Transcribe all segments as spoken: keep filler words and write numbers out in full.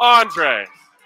Andre.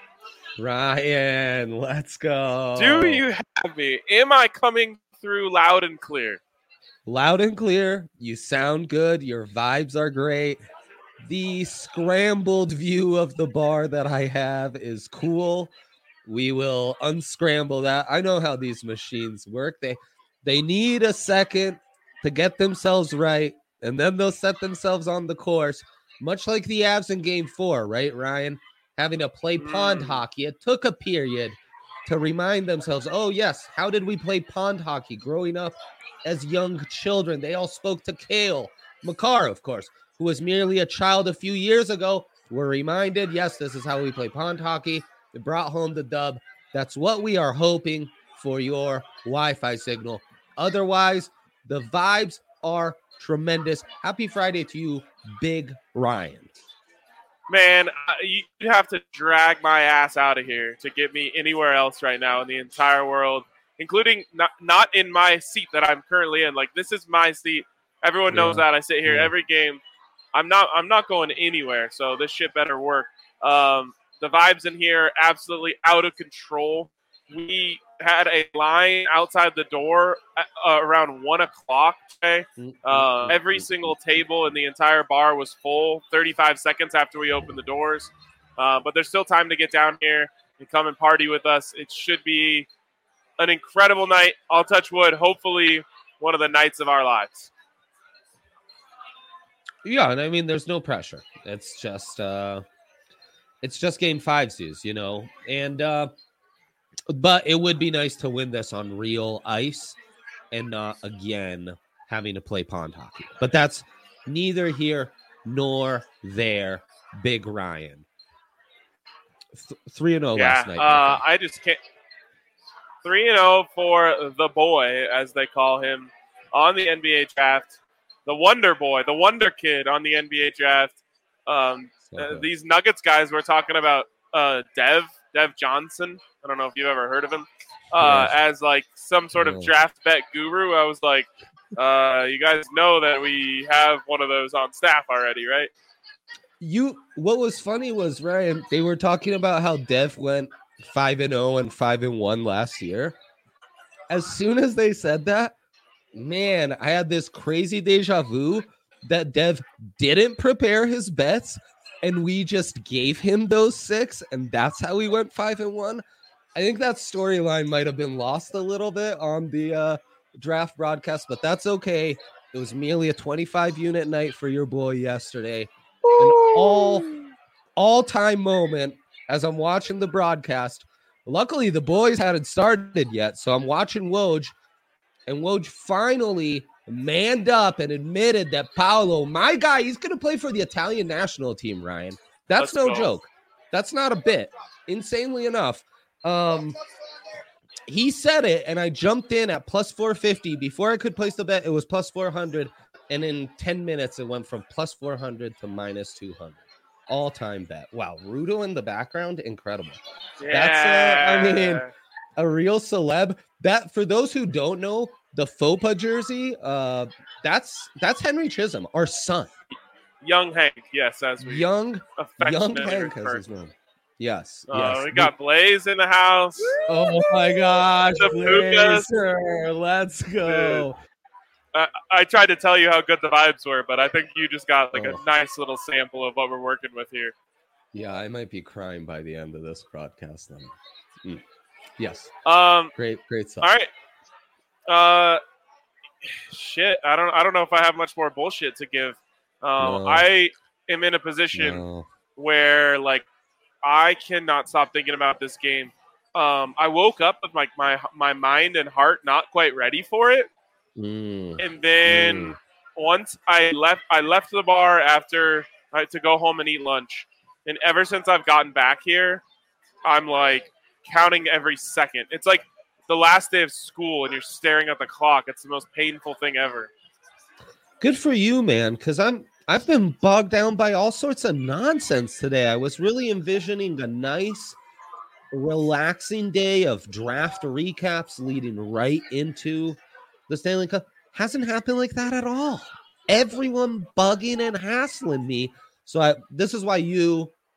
Ryan, let's go. Do you have me? Am I coming through loud and clear? Loud and clear. You sound good. Your vibes are great. The scrambled view of the bar that I have is cool. We will unscramble that. I know how these machines work. They they need a second to get themselves right, and then they'll set themselves on the course, much like the Avs in game four, right, Ryan? Having to play pond Mm. hockey. It took a period to remind themselves, oh, yes, how did we play pond hockey growing up as young children? They all spoke to Cale Makar, of course, who was merely a child a few years ago. We're reminded, yes, this is how we play pond hockey. It brought home the dub. That's what we are hoping for your Wi-Fi signal. Otherwise, the vibes are tremendous. Happy Friday to you, Big Ryan. Man, you have to drag my ass out of here to get me anywhere else right now in the entire world, including not, not in my seat that I'm currently in. Like, this is my seat. Everyone knows Yeah. that. I sit here Yeah. every game. I'm not I'm not going anywhere, so this shit better work. Um, the vibes in here are absolutely out of control. We had a line outside the door uh, around one o'clock today. Uh, every single table in the entire bar was full thirty-five seconds after we opened the doors. Uh, but there's still time to get down here and come and party with us. It should be an incredible night. I'll touch wood. Hopefully one of the nights of our lives. Yeah, and I mean, there's no pressure. It's just, uh, it's just game five, Zeus, you know. And, uh, but it would be nice to win this on real ice and not again having to play pond hockey. But that's neither here nor there. Big Ryan, Th- three and zero Yeah, last night. uh, I just can't. Three and zero for the boy, as they call him, on the N B A draft. The Wonder Boy, the Wonder Kid on the N B A draft. Um, uh, these Nuggets guys we're talking about, uh, Dev, Dev Johnson. I don't know if you've ever heard of him. Uh, Yes. As like some sort of No. draft bet guru. I was like, uh, you guys know that we have one of those on staff already, right? You, what was funny was, Ryan, they were talking about how Dev went five and zero and five and one last year. As soon as they said that, man, I had this crazy deja vu that Dev didn't prepare his bets, and we just gave him those six, and that's how we went five and one. I think that storyline might have been lost a little bit on the uh, draft broadcast, but that's okay. It was merely a twenty-five unit night for your boy yesterday. An all all-time moment as I'm watching the broadcast. Luckily, the boys hadn't started yet, so I'm watching Woj, and Woj finally manned up and admitted that Paolo, my guy, he's going to play for the Italian national team, Ryan. That's Let's no go. joke. That's not a bit. Insanely enough, um, he said it, and I jumped in at plus four fifty. Before I could place the bet, it was plus four hundred, and in ten minutes, it went from plus four hundred to minus two hundred. All-time bet. Wow, Rudo in the background, incredible. Yeah. That's, uh, I mean, a real celeb. That, for those who don't know, the FOPA jersey, uh, that's that's Henry Chisholm, our son. Young Hank, yes, as we Young, young affectionately Hank has refer. his name. Yes, Uh, yes. we got Blaze in the house. Oh my gosh, The Pukas. Blazer, let's go. I, I tried to tell you how good the vibes were, but I think you just got like Oh. a nice little sample of what we're working with here. Yeah, I might be crying by the end of this broadcast. Then. Mm. Yes, Um, great, great stuff. all right. Uh, shit. I don't. I don't know if I have much more bullshit to give. Um, No. I am in a position No. where like I cannot stop thinking about this game. Um, I woke up with like my my mind and heart not quite ready for it, Mm. and then Mm. once I left, I left the bar after uh, to go home and eat lunch, and ever since I've gotten back here, I'm like counting every second. It's like the last day of school, and you're staring at the clock. It's the most painful thing ever. Good for you, man, because I'm I've been bogged down by all sorts of nonsense today. I was really envisioning a nice, relaxing day of draft recaps leading right into the Stanley Cup. Hasn't happened like that at all. Everyone bugging and hassling me. So I, this is why you,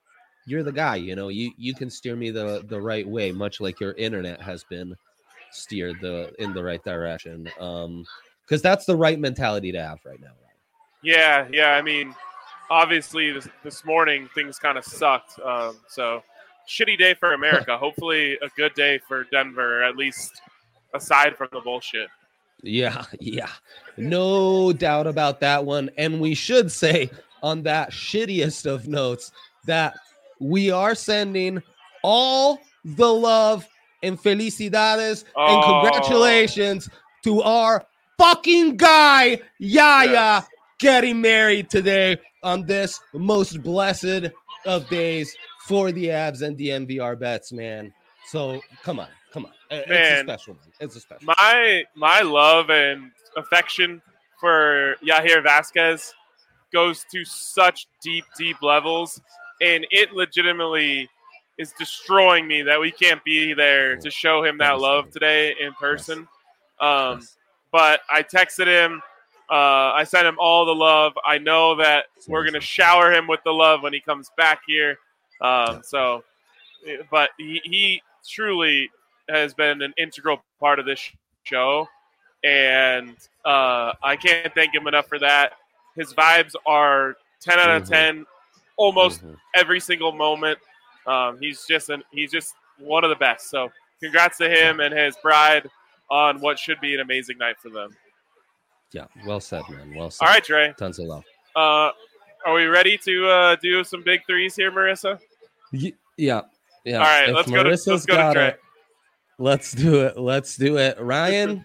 you're the guy. You know, you you can steer me the the right way, much like your internet has been steered the in the right direction. Um, because that's the right mentality to have right now. Right? Yeah, yeah. I mean, obviously this, this morning things kind of sucked. Um, so shitty day for America. Hopefully a good day for Denver, at least aside from the bullshit. Yeah, yeah. No doubt about that one. And we should say on that shittiest of notes that we are sending all the love and felicidades Oh. and congratulations to our fucking guy, Yaya, Yes. getting married today on this most blessed of days for the Abs and the M V R bets, man. So come on, come on. It's Man. a special one. It's a special My my love and affection for Yair Vasquez goes to such deep, deep levels, and it legitimately is destroying me that we can't be there to show him that love today in person. Um, Yes. But I texted him. Uh, I sent him all the love. I know that we're going to shower him with the love when he comes back here. Um, so, but he, he truly has been an integral part of this show, and uh, I can't thank him enough for that. His vibes are ten out of Mhm. ten, almost Mhm. every single moment. Um, he's just an, he's just one of the best. So, congrats to him and his bride on what should be an amazing night for them. Yeah, well said, man. Well said. All right, Trey. Tons of love. Uh, are we ready to uh, do some big threes here, Marissa? Y- Yeah, yeah. All right, If let's go to Marissa's let's go to got Trey. it, let's do it. Let's do it. Ryan,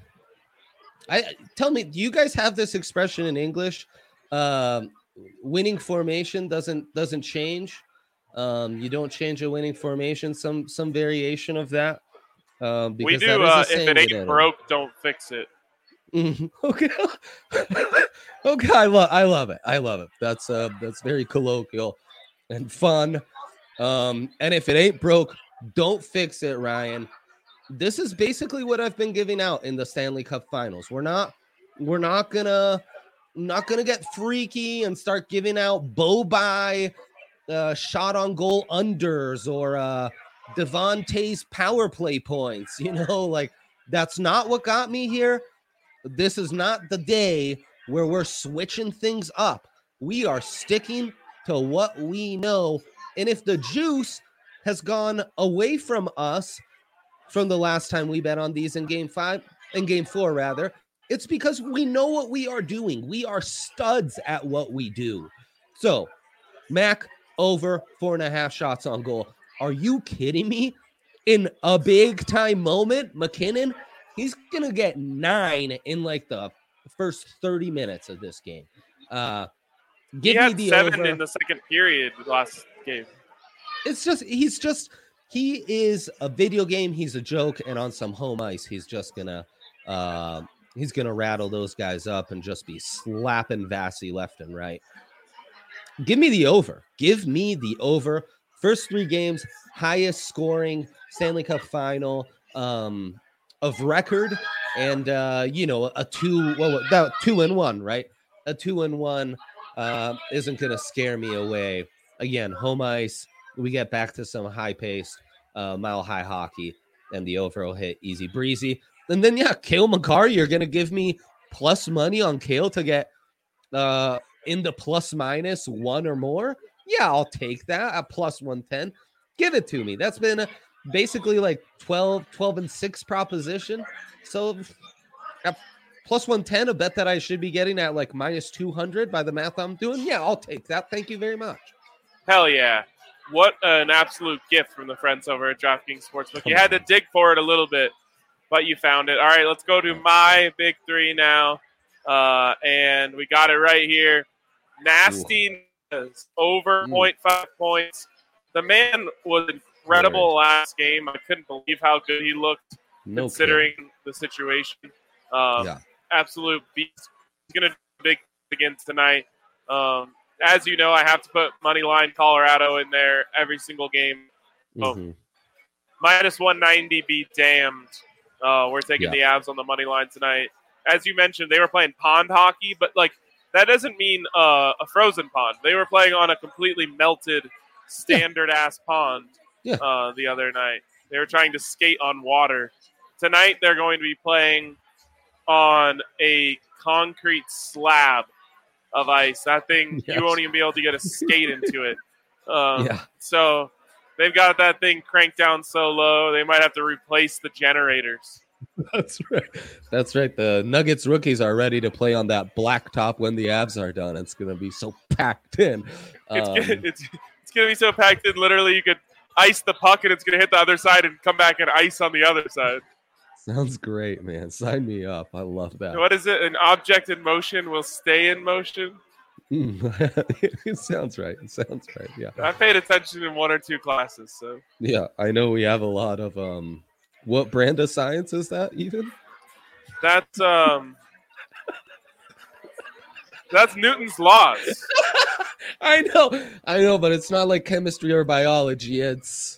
I tell me, do you guys have this expression in English? Um, winning formation doesn't doesn't change. Um, you don't change a winning formation. Some some variation of that. Um, We because do. that is a Uh, if saying it in ain't Italy. broke, don't fix it. Mhm. Okay. Okay, I love I love it. I love it. That's uh that's very colloquial and fun. Um, and if it ain't broke, don't fix it, Ryan. This is basically what I've been giving out in the Stanley Cup Finals. We're not we're not gonna not gonna get freaky and start giving out bow by uh shot on goal unders or uh Devontae's power play points. You know, like that's not what got me here. This is not the day where we're switching things up. We are sticking to what we know. And if the juice has gone away from us from the last time we bet on these in game five, in game four, rather, it's because we know what we are doing. We are studs at what we do. So, Mac over four and a half shots on goal. Are you kidding me? In a big time moment, McKinnon, he's gonna get nine in like the first thirty minutes of this game. Uh, give he me had the seven over. in the second period last game. It's just he's just he is a video game. He's a joke, and on some home ice, he's just gonna uh, he's gonna rattle those guys up and just be slapping Vasi left and right. Give me the over. Give me the over. First three games, highest scoring Stanley Cup final um, of record, and uh, you know a two well that two and one, right? A two and one uh, isn't going to scare me away. Again, home ice. We get back to some high paced, uh, mile high hockey, and the over will hit easy breezy. And then yeah, Cale Makar, you're going to give me plus money on Cale to get uh, in the plus minus one or more. Yeah, I'll take that at plus one ten. Give it to me. That's been a, basically like twelve, twelve and six proposition. So at plus one ten, a bet that I should be getting at like minus two hundred by the math I'm doing. Yeah, I'll take that. Thank you very much. Hell yeah. What an absolute gift from the friends over at DraftKings Sportsbook. Come You had on. to dig for it a little bit, but you found it. All right, let's go to my big three now. Uh, and we got it right here. Nasty over Mm. point five points. The man was incredible last game. I couldn't believe how good he looked No considering the situation. Um, Yeah. Absolute beast. He's going to do big again tonight. Um, as you know, I have to put money line Colorado in there every single game. Oh, Mhm. minus one ninety, be damned. Uh, we're taking Yeah. the Avs on the money line tonight. As you mentioned, they were playing pond hockey, but like that doesn't mean uh, a frozen pond. They were playing on a completely melted standard ass pond Yeah. uh, the other night. They were trying to skate on water. Tonight they're going to be playing on a concrete slab of ice. That thing, Yes. you won't even be able to get a skate into it. Um, Yeah. So they've got that thing cranked down so low, they might have to replace the generators. That's right. That's right. The Nuggets rookies are ready to play on that blacktop when the Avs are done. It's going to be so packed in. It's Um, gonna, it's it's going to be so packed in. Literally, you could ice the puck and it's going to hit the other side and come back and ice on the other side. Sounds great, man. Sign me up. I love that. What is it? An object in motion will stay in motion. It sounds right. It sounds right. Yeah. I paid attention in one or two classes, so Yeah. I know we have a lot of um. What brand of science is that even? that's um that's Newton's laws. I know. I know, but it's not like chemistry or biology. It's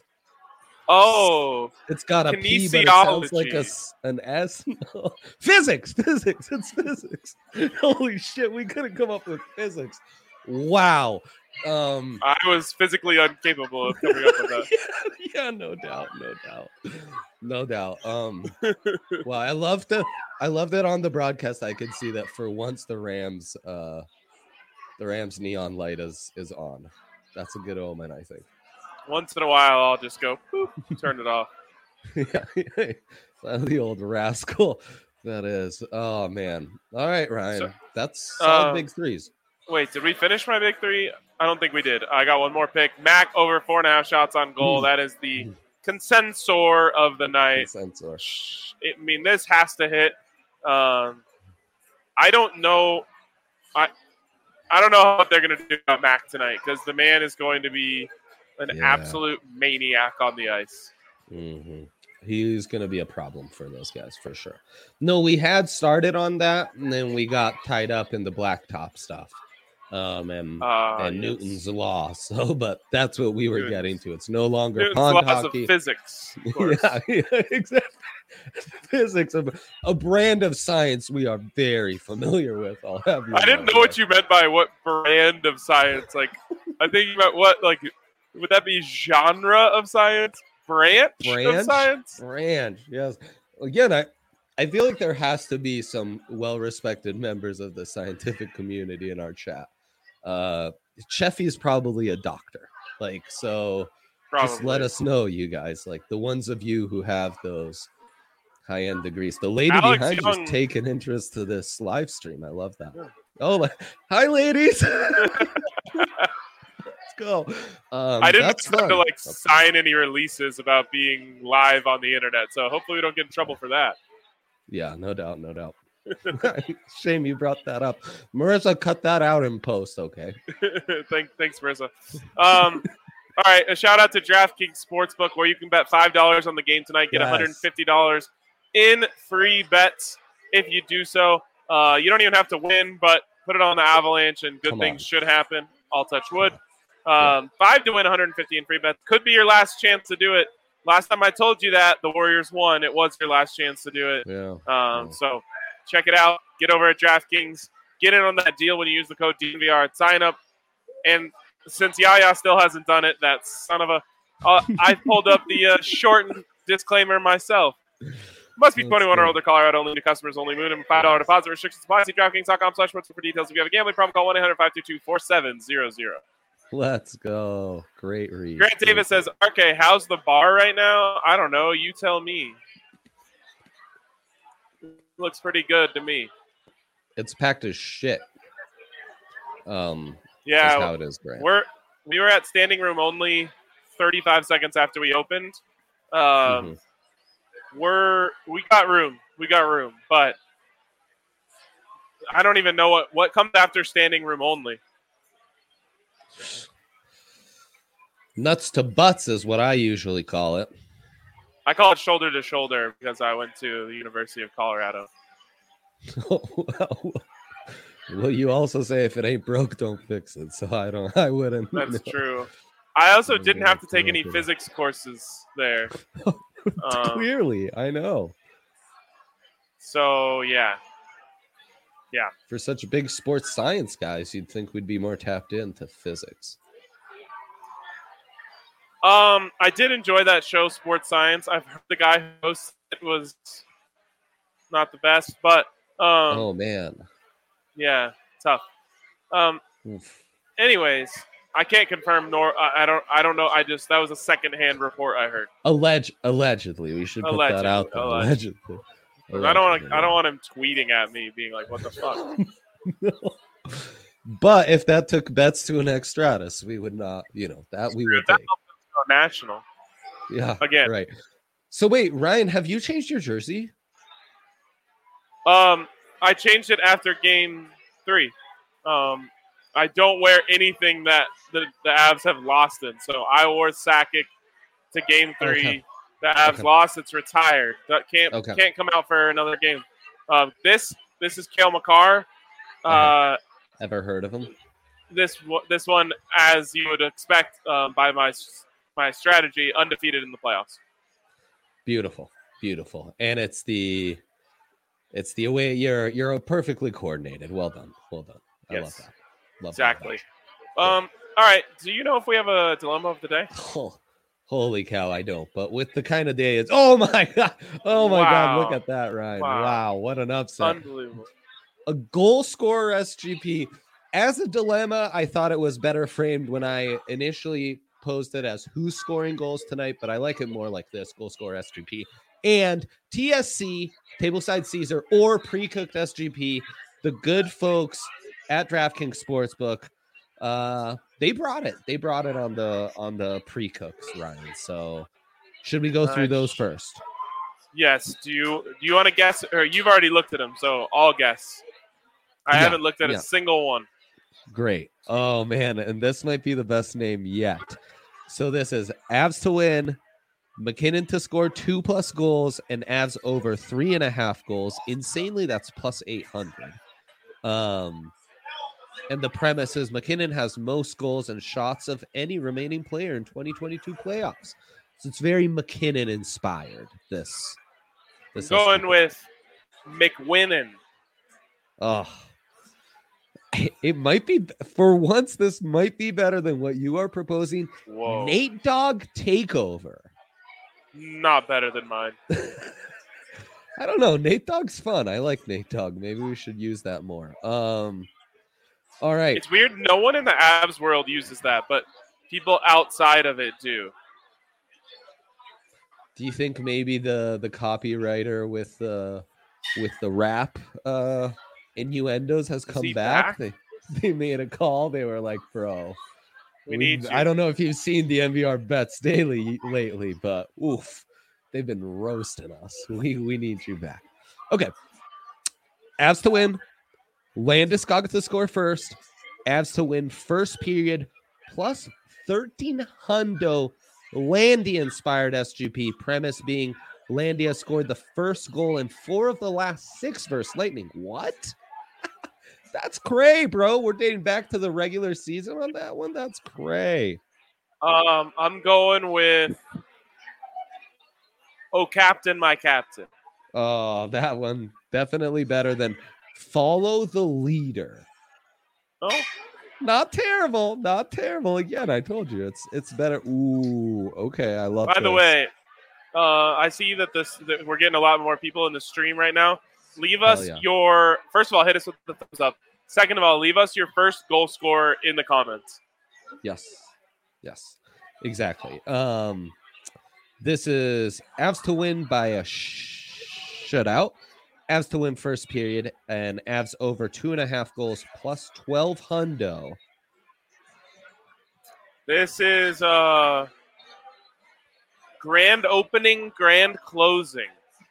Oh, it's got a P, but it sounds like a kinesiology. s- an S. No. Physics. Physics. It's physics. Holy shit! We couldn't come up with physics. Wow. Um. I was physically incapable of coming up with that. yeah, yeah, no doubt, no doubt, no doubt. Um, well, I love to, I love that on the broadcast I could see that for once the Rams, uh, the Rams neon light is is on. That's a good omen, I think. Once in a while, I'll just go, boop, turn it off. Yeah, the old rascal. That is. Oh man. All right, Ryan. So, That's solid uh, big threes. Wait, did we finish my big three? I don't think we did. I got one more pick. Mac over four and a half shots on goal. That is the consensor of the night. Sensor. I mean, this has to hit. Um, I don't know. I I don't know what they're going to do about Mac tonight because the man is going to be an Yeah. absolute maniac on the ice. Mm-hmm. He's going to be a problem for those guys for sure. No, we had started on that, and then we got tied up in the blacktop stuff, um, and Uh, and yes. Newton's law. So, but that's what we were Newton's- getting to. It's no longer Newton's pond laws hockey. of physics. Of course. Yeah, yeah, exactly. Physics, a, a brand of science we are very familiar with. I'll have you I didn't know what you meant by what brand of science. Like, I think you meant what, like, would that be genre of science? Branch, of Branch? science? Branch, yes. Again, I, I feel like there has to be some well-respected members of the scientific community in our chat. Uh, Cheffy's probably a doctor. Like, so Probably. just let us know, you guys. Like, the ones of you who have those high-end degrees. The lady Alex behind Young- you's taking interest to this live stream. I love that. Yeah. Oh, like, hi, ladies. Let's go. Um, I didn't that's have fun. to like That's- sign any releases about being live on the internet, so hopefully we don't get in trouble for that. Yeah, no doubt, no doubt. Shame you brought that up. Marissa, cut that out in post, okay? Thank, thanks, Marissa. Um, all right, a shout out to DraftKings Sportsbook, where you can bet five dollars on the game tonight, get Yes. one hundred fifty dollars in free bets if you do so. Uh, you don't even have to win, but put it on the Avalanche, and good Come things on. should happen. I'll touch wood. Um, Five to win one hundred fifty in free bets. Could be your last chance to do it. Last time I told you that the Warriors won, it was your last chance to do it. Yeah. Um, Yeah. so check it out. Get over at DraftKings. Get in on that deal when you use the code D V R at sign up. And since Yaya still hasn't done it, that son of a, uh, I pulled up the uh, shortened disclaimer myself. Must be That's twenty-one or good. older. Colorado only. New customers only. Minimum five dollar deposit restrictions apply. See DraftKings dot com slash sports for details. If you have a gambling problem, call one eight hundred five two two four seven zero zero. Let's go. Great read. Grant Great Davis read. says, "Okay, how's the bar right now? I don't know. You tell me. Looks pretty good to me. It's packed as shit. Um, Yeah, that's how it is, Grant. We're we were at standing room only thirty-five seconds after we opened. Um, Mhm. We're we got room, we got room, but I don't even know what what comes after standing room only. Nuts to butts is what I usually call it. I call it shoulder to shoulder because I went to the University of Colorado. well, well, you also say if it ain't broke, don't fix it. So I don't. I wouldn't. That's know. true. I also Oh, didn't yeah, have to take yeah, any yeah. physics courses there. Um, Clearly, I know. so yeah, For such big sports science guys, you'd think we'd be more tapped into physics. Um, I did enjoy that show, Sports Science. I've heard the guy who hosted it was not the best, but um, Oh man. yeah, tough. Um, Oof. anyways, I can't confirm nor I, I don't I don't know. I just that was a secondhand report I heard. Alleg- allegedly, we should put Allegedly, that out there. allegedly. Allegedly. I don't want to. I don't want him tweeting at me, being like, "What the fuck." No. But if that took bets to an extratus, we would not, you know, that we would That take. helped us go national. Yeah, Again. right. So wait, Ryan, have you changed your jersey? Um, I changed it after game three. Um, I don't wear anything that the, the Avs have lost in. So I wore Sakic to game three. Okay. The Avs Okay. lost. It's retired. That can't Okay. can't come out for another game. Um, this this is Cale Makar. Uh, Uh-huh. Ever heard of him? this one- this one, as you would expect, um, by my my strategy, undefeated in the playoffs. Beautiful, beautiful, and it's the, it's the way you're you're perfectly coordinated. Well done, well done. I love Yes. that. Love Exactly. that. Um. All right. Do you know if we have a dilemma of the day? Oh, holy cow, I don't. But with the kind of day it's, oh my god, oh my god, look Wow. at that, Ryan! Wow. Wow, what an upset! Unbelievable. A goal scorer S G P as a dilemma. I thought it was better framed when I initially posed it as who's scoring goals tonight, but I like it more like this: goal scorer S G P and T S C, Tableside Caesar, or pre-cooked S G P. The good folks at DraftKings Sportsbook, uh, they brought it. They brought it on the on the pre-cooks, Ryan. So should we go through Nice. those first? Yes. Do you do you want to guess, or you've already looked at them? So I'll guess. I Yeah, haven't looked at yeah. a single one. Great. Oh man, and this might be the best name yet. So this is Avs to win, McKinnon to score two plus goals, and Avs over three and a half goals. Insanely, that's plus eight hundred. Um, and the premise is McKinnon has most goals and shots of any remaining player in twenty twenty-two playoffs. So it's very McKinnon inspired. This, this Going S G P. with McWinnon. Oh, it might be for once. This might be better than what you are proposing. Whoa. Nate Dogg takeover. Not better than mine. I don't know. Nate Dogg's fun. I like Nate Dogg. Maybe we should use that more. Um, all right. It's weird. No one in the Avs world uses that, but people outside of it do. Do you think maybe the the copywriter with the with the rap uh, innuendos has come he back? back? They they made a call. They were like, "Bro, We need you. I don't know if you've seen the N V R bets daily lately, but oof, they've been roasting us. We we need you back." Okay. Avs to win. Landeskog to score first. Avs to win first period plus thirteen hundo. Landy inspired S G P. Premise being Landy has scored the first goal in four of the last six versus Lightning. What? That's cray, bro. We're dating back to the regular season on that one. That's cray. Um, I'm going with Oh Captain, My Captain. Oh, that one definitely better than follow the leader. Oh, Not terrible. Not terrible. Again, I told you it's it's better. Ooh, okay. I love by the this. way, uh, I see that this that we're getting a lot more people in the stream right now. Leave Hell us yeah. your first of all, hit us with the thumbs up. Second of all, leave us your first goal scorer in the comments. Yes. Yes. Exactly. Um this is Avs to win by a sh- shutout. Avs to win first period and Avs over two and a half goals plus twelve hundo. This is uh grand opening, grand closing.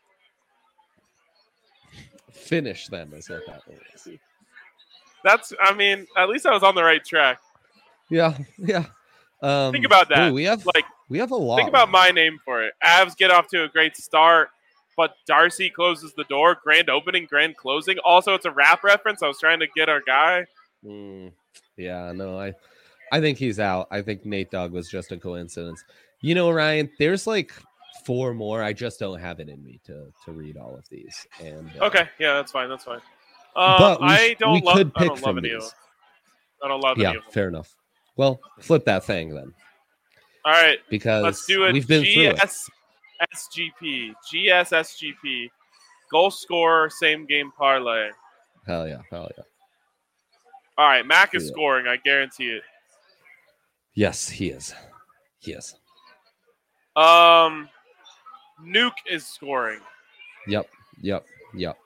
Finish them is what that is. That's I mean, at least I was on the right track. Yeah, yeah. Um, Think about that. ooh, we have Like we have a lot. think about my name for it. Avs get off to a great start, but Darcy closes the door. Grand opening, grand closing. Also, it's a rap reference. I was trying to get our guy. Mm, yeah, no, I I think he's out. I think Nate Dogg was just a coincidence. You know, Ryan, there's like four more. I just don't have it in me to to read all of these. And uh, Okay, yeah, that's fine. That's fine. Um, But we I sh- don't we love. could I pick don't love from any of these. them. I don't love Yeah, any of them. fair enough. Well, flip that thing then. All right. Because let's do a we've been G S S G P. G S S G P. Goal scorer, same game parlay. Hell yeah. Hell yeah. All right. Mac is Yeah. scoring. I guarantee it. Yes, he is. He is. Um, Nuke is scoring. Yep. Yep. Yep.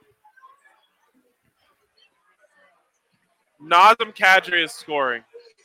Nazem Kadri is scoring.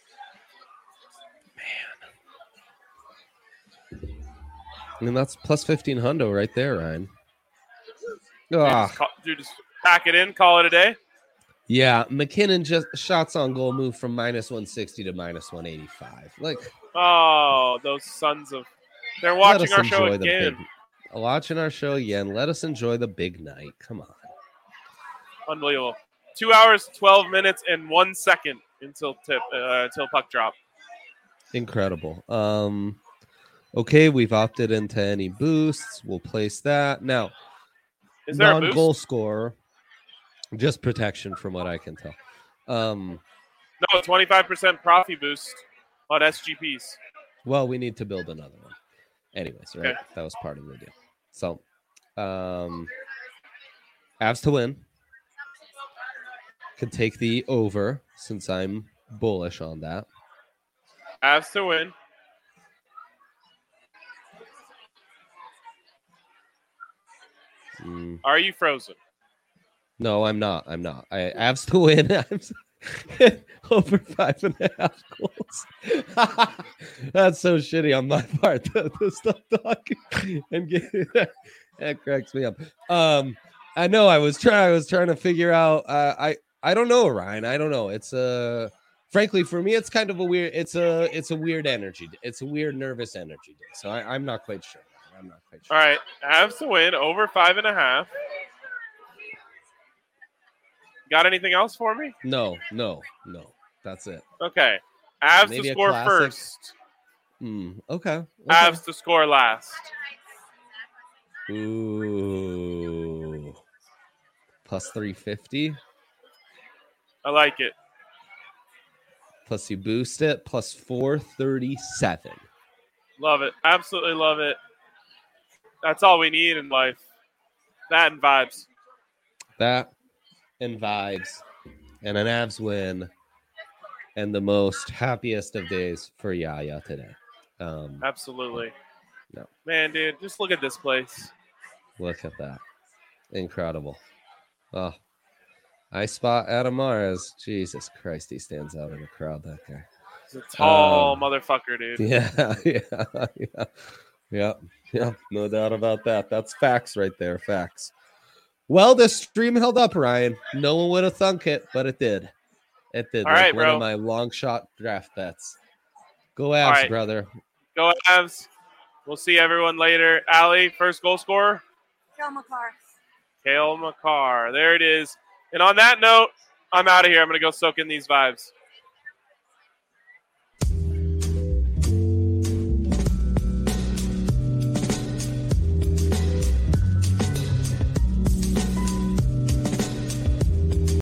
I mean, that's plus fifteen hundo right there, Ryan. Dude, Ah, just, call, dude, just pack it in, call it a day. yeah. McKinnon just shots on goal moved from minus one sixty to minus one eighty-five. Like, Oh, those sons of. They're let watching us our show enjoy the again. big. Watching our show again. Let us enjoy the big night. Come on. Unbelievable. Two hours, twelve minutes, and one second until tip uh, until puck drop. Incredible. Um, okay, we've opted into any boosts. We'll place that now. Is there a Non-goal boost? scorer, just protection from what I can tell. Um, No, twenty-five percent profit boost on S G Ps. well, we need to build another one. Anyways, right? Okay. That was part of the deal. So, um, Avs to win. Could take the over since I'm bullish on that. Avs to win. Mm, Are you frozen? no, I'm not. I'm not. I Avs to win. Avs over five and a half goals. That's so shitty on my part to, to stop talking and get that cracks me up. Um, I know I was trying. I was trying to figure out. Uh, I I don't know, Ryan. I don't know. It's a. Uh, frankly, for me, it's kind of a weird. It's a. It's a weird energy. It's a weird nervous energy day. So I, I'm not quite sure. I'm not quite sure. All right. Avs to win over five and a half. Got anything else for me? No, no, no. That's it. Okay. Avs Maybe to a score classic. first. Mm, okay. okay. Avs to score last. Ooh. Plus three fifty. I like it. Plus you boost it. Plus four thirty-seven. Love it. Absolutely love it. That's all we need in life. That and vibes. That and vibes. And an Avs win. And the most happiest of days for Yaya today. Um, Absolutely. No. Man, dude, just look at this place. Look at that. Incredible. Oh, I spot Adam Mares. Jesus Christ, he stands out in the crowd, that guy. He's a tall Um, motherfucker, dude. Yeah, yeah, yeah. Yeah, yeah, no doubt about that. That's facts right there, facts. Well, the stream held up, Ryan. No one would have thunk it, but it did. It did. All like right, one bro. of my long shot draft bets. Go Avs, All right. brother. Go Avs. We'll see everyone later. Allie, first goal scorer? Kale McCarr. Kale McCarr. There it is. And on that note, I'm out of here. I'm going to go soak in these vibes.